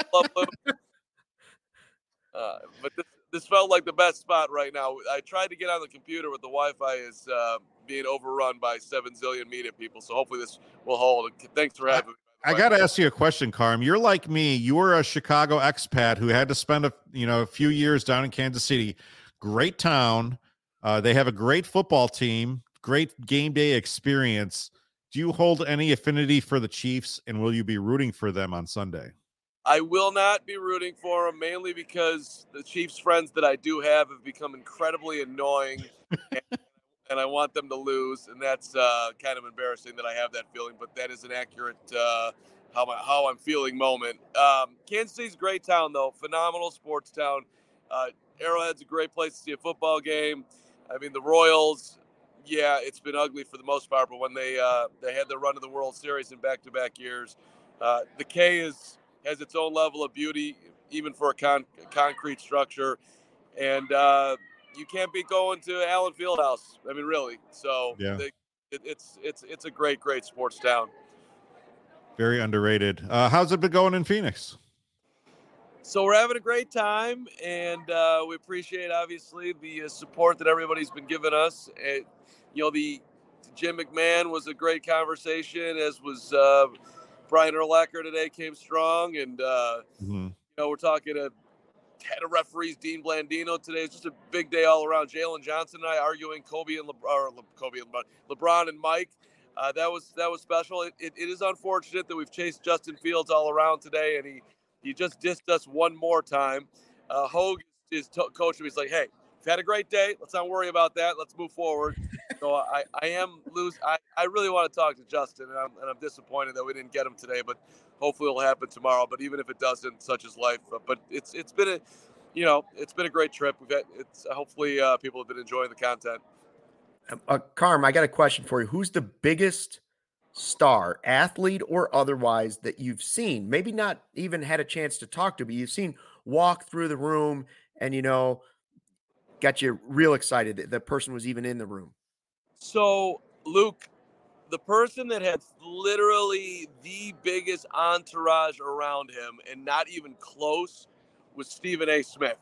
but this felt like the best spot right now. I tried to get on the computer, but the Wi-Fi is being overrun by 7 zillion media people. So hopefully this will hold. Thanks for having me. I got to ask you a question, Carm. You're like me. You were a Chicago expat who had to spend a few years down in Kansas City. Great town. They have a great football team, great game day experience. Do you hold any affinity for the Chiefs, and will you be rooting for them on Sunday? I will not be rooting for them, mainly because the Chiefs friends that I do have become incredibly annoying, and I want them to lose, and that's kind of embarrassing that I have that feeling, but that is an accurate how I'm feeling moment. Kansas City's a great town, though. Phenomenal sports town. Arrowhead's a great place to see a football game. I mean, the Royals, yeah, it's been ugly for the most part, but when they had their run to the World Series in back-to-back years, the K has its own level of beauty, even for a concrete structure. And you can't be going to Allen Fieldhouse. I mean, really. So yeah. It's a great sports town. Very underrated. How's it been going in Phoenix? So we're having a great time, and we appreciate, obviously, the support that everybody's been giving us. The Jim McMahon was a great conversation, as was Brian Urlacher today, came strong. And, we're talking to head of referees Dean Blandino today. It's just a big day all around. Jalen Johnson and I arguing LeBron and Mike. That was special. It is unfortunate that we've chased Justin Fields all around today, and he just dissed us one more time. Hogue is coaching. He's like, hey, we've had a great day. Let's not worry about that. Let's move forward. So I really want to talk to Justin, and I'm disappointed that we didn't get him today, but hopefully it'll happen tomorrow. But even if it doesn't, such is life. But it's been a great trip. Hopefully people have been enjoying the content. Carm, I got a question for you. Who's the biggest star, athlete or otherwise, that you've seen, maybe not even had a chance to talk to, but you've seen walk through the room and, got you real excited that the person was even in the room? So, Luke, the person that had literally the biggest entourage around him and not even close was Stephen A. Smith.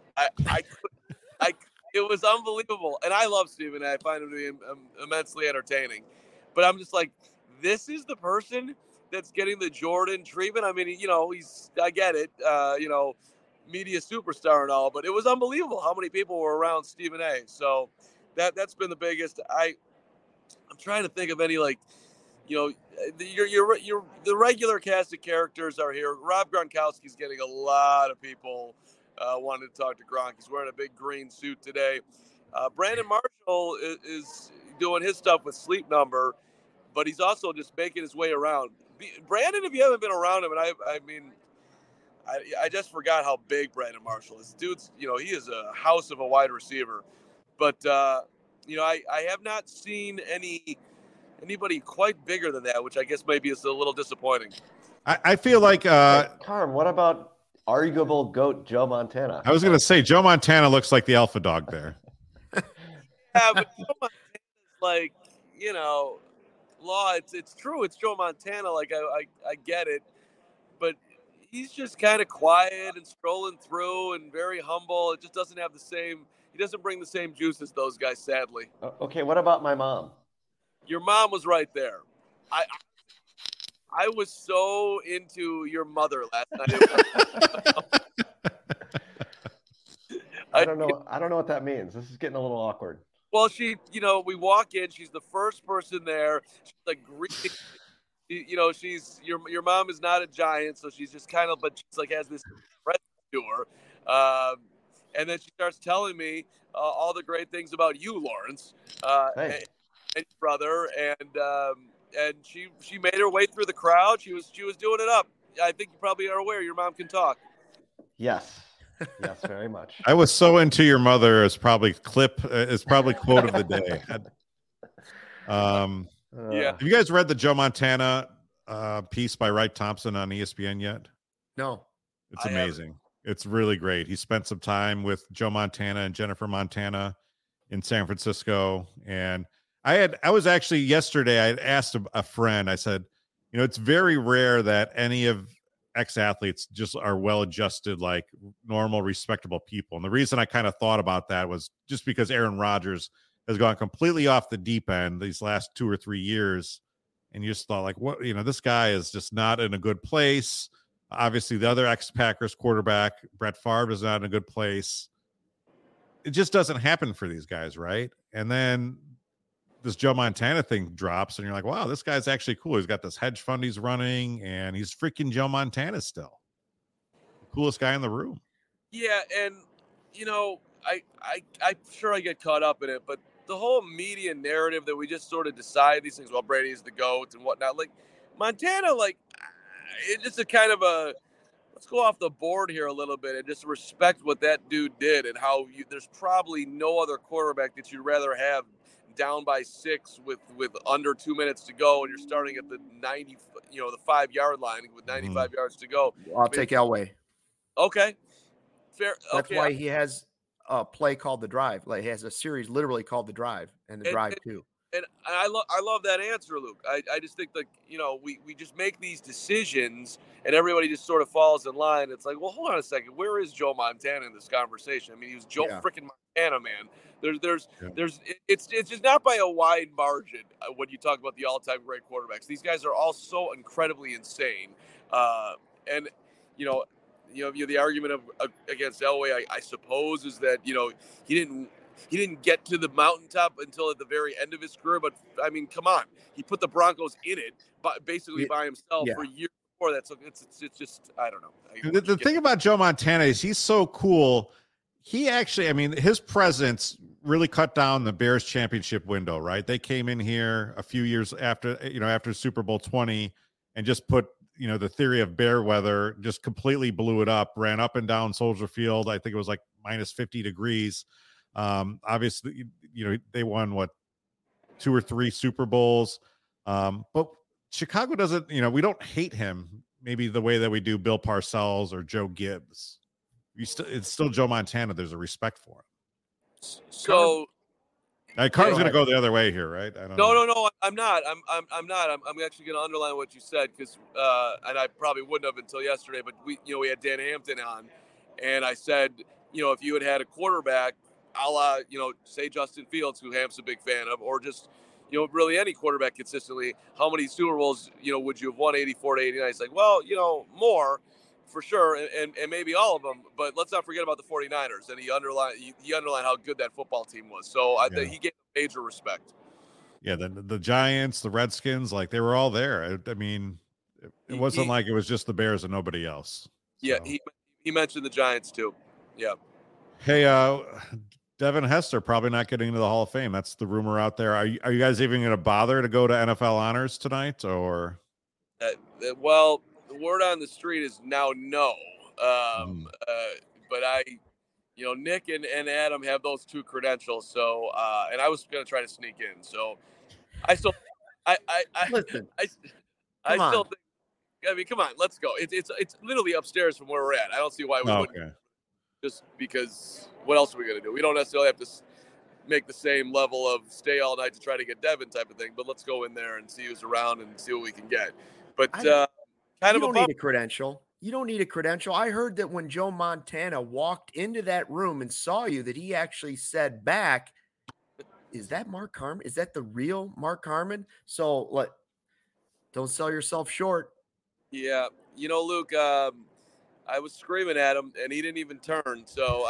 It was unbelievable. And I love Stephen A. I find him to be immensely entertaining. But I'm just like, this is the person that's getting the Jordan treatment. I mean, I get it, media superstar and all, but it was unbelievable how many people were around Stephen A. So that's been the biggest. I'm trying to think of any, the regular cast of characters are here. Rob Gronkowski's getting a lot of people wanting to talk to Gronk. He's wearing a big green suit today. Brandon Marshall is doing his stuff with Sleep Number, but he's also just making his way around. Brandon, if you haven't been around him, and I just forgot how big Brandon Marshall is. Dude's, he is a house of a wide receiver. But, I have not seen anybody quite bigger than that, which I guess maybe is a little disappointing. I feel like Carm, what about arguable GOAT Joe Montana? I was going to say Joe Montana looks like the alpha dog there. Yeah, but Joe Montana's law. It's true. It's Joe Montana. I get it, but he's just kind of quiet and strolling through and very humble. It just doesn't have the same. He doesn't bring the same juice as those guys, sadly. Okay, what about my mom? Your mom was right there. I was so into your mother last night. I don't know what that means. This is getting a little awkward. Well, she, we walk in. She's the first person there. She's like greeting. She's your mom is not a giant, so she's just kind of, but she's like has this presence to her. And then she starts telling me all the great things about you, Lawrence, and your brother, and she made her way through the crowd. She was doing it up. I think you probably are aware your mom can talk. Yes, very much. I was so into your mother is probably quote of the day. Yeah. Have you guys read the Joe Montana piece by Wright Thompson on ESPN yet? No. It's amazing. It's really great. He spent some time with Joe Montana and Jennifer Montana in San Francisco. And I was actually yesterday, I had asked a friend, I said, it's very rare that any of ex-athletes just are well-adjusted, like normal, respectable people. And the reason I kind of thought about that was just because Aaron Rodgers has gone completely off the deep end these last 2 or 3 years. And you just thought what, this guy is just not in a good place. Obviously, the other ex-Packers quarterback, Brett Favre, is not in a good place. It just doesn't happen for these guys, right? And then this Joe Montana thing drops, and you're like, wow, this guy's actually cool. He's got this hedge fund he's running, and he's freaking Joe Montana still. The coolest guy in the room. Yeah, and, I'm sure I get caught up in it, but the whole media narrative that we just sort of decide these things, well, Brady's the GOAT and whatnot. Montana, it's just a kind of let's go off the board here a little bit and just respect what that dude did and how there's probably no other quarterback that you'd rather have down by 6 with under 2 minutes to go, and you're starting at the 90, the 5-yard line with 95 yards to go. I'll take Elway. Okay, fair. That's why he has a play called The Drive. Like, he has a series literally called The Drive and The Drive 2. And I love that answer, Luke. I just think, like, we just make these decisions and everybody just sort of falls in line. It's like, well, hold on a second. Where is Joe Montana in this conversation? I mean, he was Joe freaking Montana, man. It's just not by a wide margin when you talk about the all-time great quarterbacks. These guys are all so incredibly insane. And the argument against Elway, I suppose, is that he didn't get to the mountaintop until at the very end of his career. But I mean, come on, he put the Broncos in it, basically by himself for years before that. So it's just, I don't know. The thing about Joe Montana is he's so cool. He actually, I mean, his presence really cut down the Bears championship window, right? They came in here a few years after Super Bowl 20 and just put, the theory of bear weather, just completely blew it up, ran up and down Soldier Field. I think it was like minus 50 degrees. Obviously, they won 2 or 3 Super Bowls. But Chicago doesn't, we don't hate him maybe the way that we do Bill Parcells or Joe Gibbs. It's still Joe Montana. There's a respect for him. So Carm's going to go the other way here, right? No, I'm not. I'm not. I'm actually going to underline what you said because, and I probably wouldn't have until yesterday, but we had Dan Hampton on, and I said, if you had a quarterback, a la, say Justin Fields, who Hamp's a big fan of, or just, really any quarterback consistently, how many Super Bowls, would you have won? 84 to 89? It's like, well, more. For sure, and maybe all of them, but let's not forget about the 49ers. And he underlined how good that football team was. So he gave major respect. Yeah, the Giants, the Redskins, like they were all there. I mean, it wasn't like it was just the Bears and nobody else. Yeah, so. He mentioned the Giants too. Yeah. Hey, Devin Hester probably not getting into the Hall of Fame. That's the rumor out there. Are you guys even going to bother to go to NFL honors tonight, or? Well. The word on the street is now no. But Nick and Adam have those 2 credentials. So, and I was going to try to sneak in. So I still, listen, I still think, I mean, come on, let's go. It's literally upstairs from where we're at. I don't see why we wouldn't. Just because what else are we going to do? We don't necessarily have to make the same level of stay all night to try to get Devin type of thing, but let's go in there and see who's around and see what we can get. But, you don't need a credential. You don't need a credential. I heard that when Joe Montana walked into that room and saw you, that he actually said back, "Is that Mark Harmon? Is that the real Mark Harmon?" So, don't sell yourself short. Yeah, Luke. I was screaming at him, and he didn't even turn. So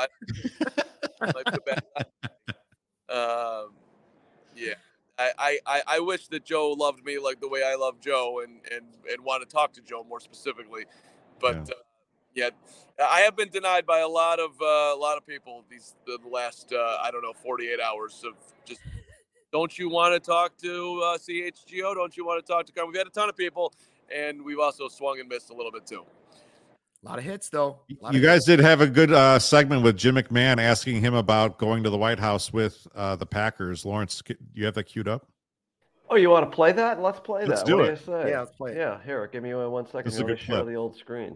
yeah. I wish that Joe loved me like the way I love Joe and want to talk to Joe more specifically. But I have been denied by a lot of people the last 48 hours of just, don't you want to talk to CHGO? Don't you want to talk to Carm? We've had a ton of people, and we've also swung and missed a little bit too. A lot of hits, though. You guys did have a good segment with Jim McMahon asking him about going to the White House with the Packers. Lawrence, you have that queued up? Oh, you want to play that? Let's play that. Let's do it. Yeah, let's play it. Yeah, here, give me 1 second. Let me share the old screen.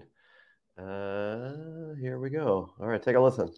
Here we go. All right, take a listen.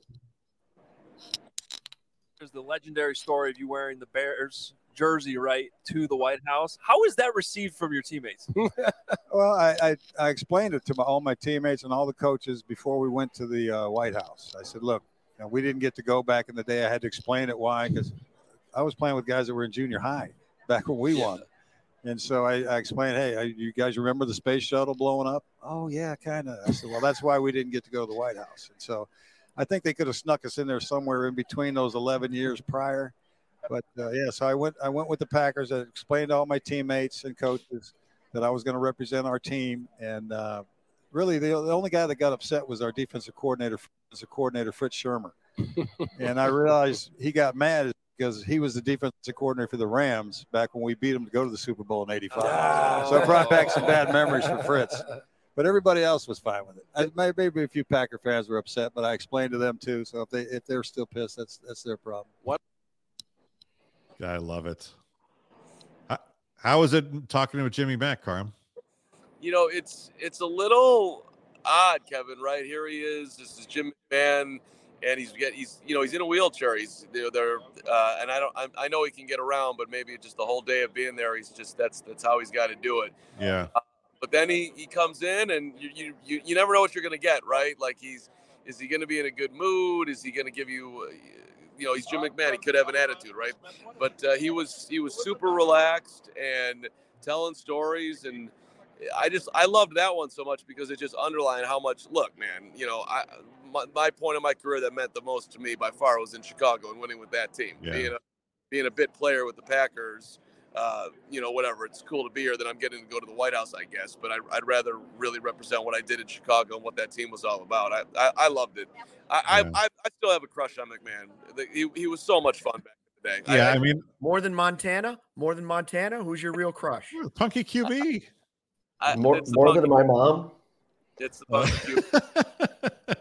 There's the legendary story of you wearing the Bears jersey to the White House. How was that received from your teammates? Well, I explained it to all my teammates and all the coaches before we went to the White House. I said, look, we didn't get to go back in the day. I had to explain it why, because I was playing with guys that were in junior high back when we won. And so I explained, hey, you guys remember the space shuttle blowing up? Oh, yeah, kind of. I said, well, that's why we didn't get to go to the White House. And so I think they could have snuck us in there somewhere in between those 11 years prior. But, so I went with the Packers. I explained to all my teammates and coaches that I was going to represent our team. And really, the only guy that got upset was our defensive coordinator, Fritz Shermer. And I realized he got mad because he was the defensive coordinator for the Rams back when we beat them to go to the Super Bowl in '85. So it brought back some bad memories for Fritz. But everybody else was fine with it. Maybe a few Packer fans were upset, but I explained to them too. So if they're still pissed, that's their problem. What? I love it. How is it talking with Jimmy Mack, Carm? It's a little odd, Kevin. Right here he is. This is Jim McMahon, and he's in a wheelchair. He's and I know he can get around, but maybe just the whole day of being there, that's how he's got to do it. Yeah. But then he comes in, and you never know what you're going to get, right? Like is he going to be in a good mood? Is he going to give you, he's Jim McMahon. He could have an attitude, right? But he was super relaxed and telling stories, and I loved that one so much because it just underlined how much. Look, man, my point in my career that meant the most to me by far was in Chicago and winning with that team. Yeah. Being a bit player with the Packers. Whatever. It's cool to be here. That I'm getting to go to the White House, I guess. But I'd rather really represent what I did in Chicago and what that team was all about. I loved it. I still have a crush on McMahon. He was so much fun back in the day. Yeah, I mean, more than Montana. Who's your real crush? Punky QB. More than my mom. It's the Punky QB.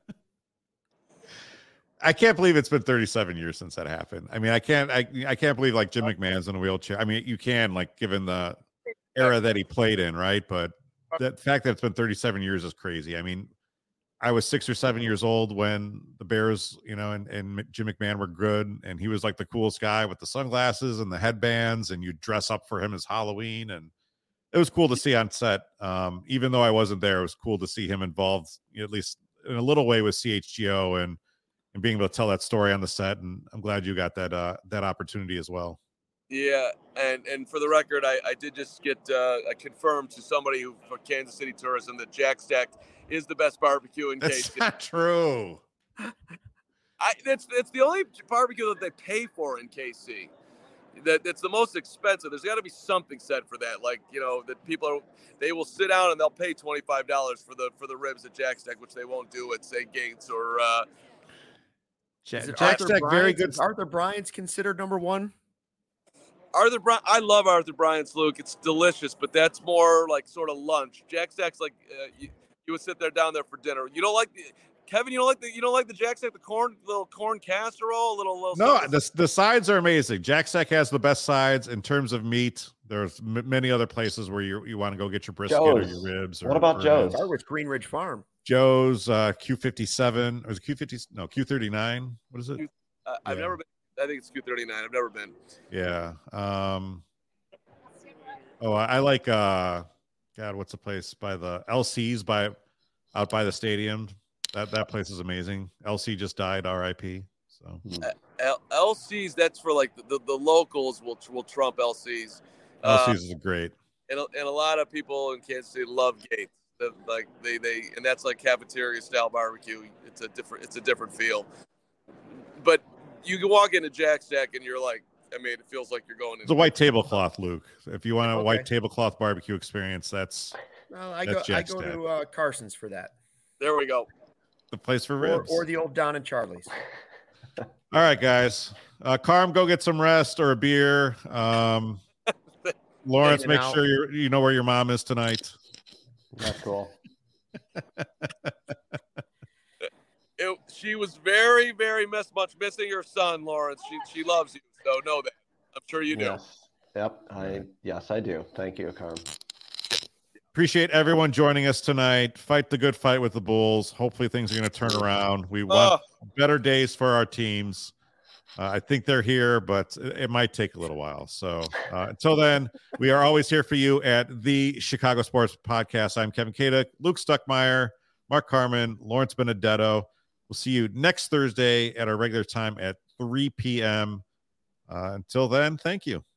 I can't believe it's been 37 years since that happened. I mean, I can't believe like Jim McMahon's in a wheelchair. I mean, you can, like, given the era that he played in, right? But the fact that it's been 37 years is crazy. I mean, I was 6 or 7 years old when the Bears, and Jim McMahon were good, and he was like the coolest guy with the sunglasses and the headbands, and you dress up for him as Halloween, and it was cool to see on set. Even though I wasn't there, it was cool to see him involved, at least in a little way, with CHGO and being able to tell that story on the set. And I'm glad you got that opportunity as well. Yeah, and for the record, I did just get confirmed to somebody for Kansas City Tourism that Jack Stack is the best barbecue in KC. That's not true. It's the only barbecue that they pay for in KC. That's the most expensive. There's got to be something said for that. Like, that they will sit down and they'll pay $25 for the ribs at Jack Stack, which they won't do at, say, Gates or Jack Stack. Very good. Is Arthur Bryant's considered number one? Arthur Bryant, I love Arthur Bryant's, Luke. It's delicious, but that's more like sort of lunch. Jack Stack's like you would sit there down there for dinner. You don't like Kevin? You don't like the Jack Stack, the little corn casserole, little. No, the sides are amazing. Jack Stack has the best sides in terms of meat. There's many other places where you want to go get your brisket or your ribs. What about Joe's? Start with Green Ridge Farm. Joe's Q57 or is it Q50? No, Q39. What is it? I've never been. I think it's Q39. I've never been. Yeah. I like what's the place by the LC's out by the stadium? That place is amazing. LC just died, RIP. So LC's, that's for like the locals will trump LC's. LC's is great. And a lot of people in Kansas City love Gates. Like they and that's like cafeteria style barbecue. It's a different feel. But you can walk into Jack Stack and you're like, I mean, it feels like you're going. It's a white tablecloth, Luke. If you want a white tablecloth barbecue experience, I go to Carson's for that. There we go. The place for ribs, or the old Don and Charlie's. All right, guys. Carm, go get some rest or a beer. Lawrence, make sure you know where your mom is tonight. That's cool. She was very, very much missing her son, Lawrence. She loves you, so know that. I'm sure you do. Yes. Yep. Yes, I do. Thank you, Carm. Appreciate everyone joining us tonight. Fight the good fight with the Bulls. Hopefully things are going to turn around. We want better days for our teams. I think they're here, but it might take a little while. So until then, we are always here for you at the Chicago Sports Podcast. I'm Kevin Kaduk, Luke Stuckmeyer, Mark Carman, Lawrence Benedetto. We'll see you next Thursday at our regular time at 3 p.m. Until then, thank you.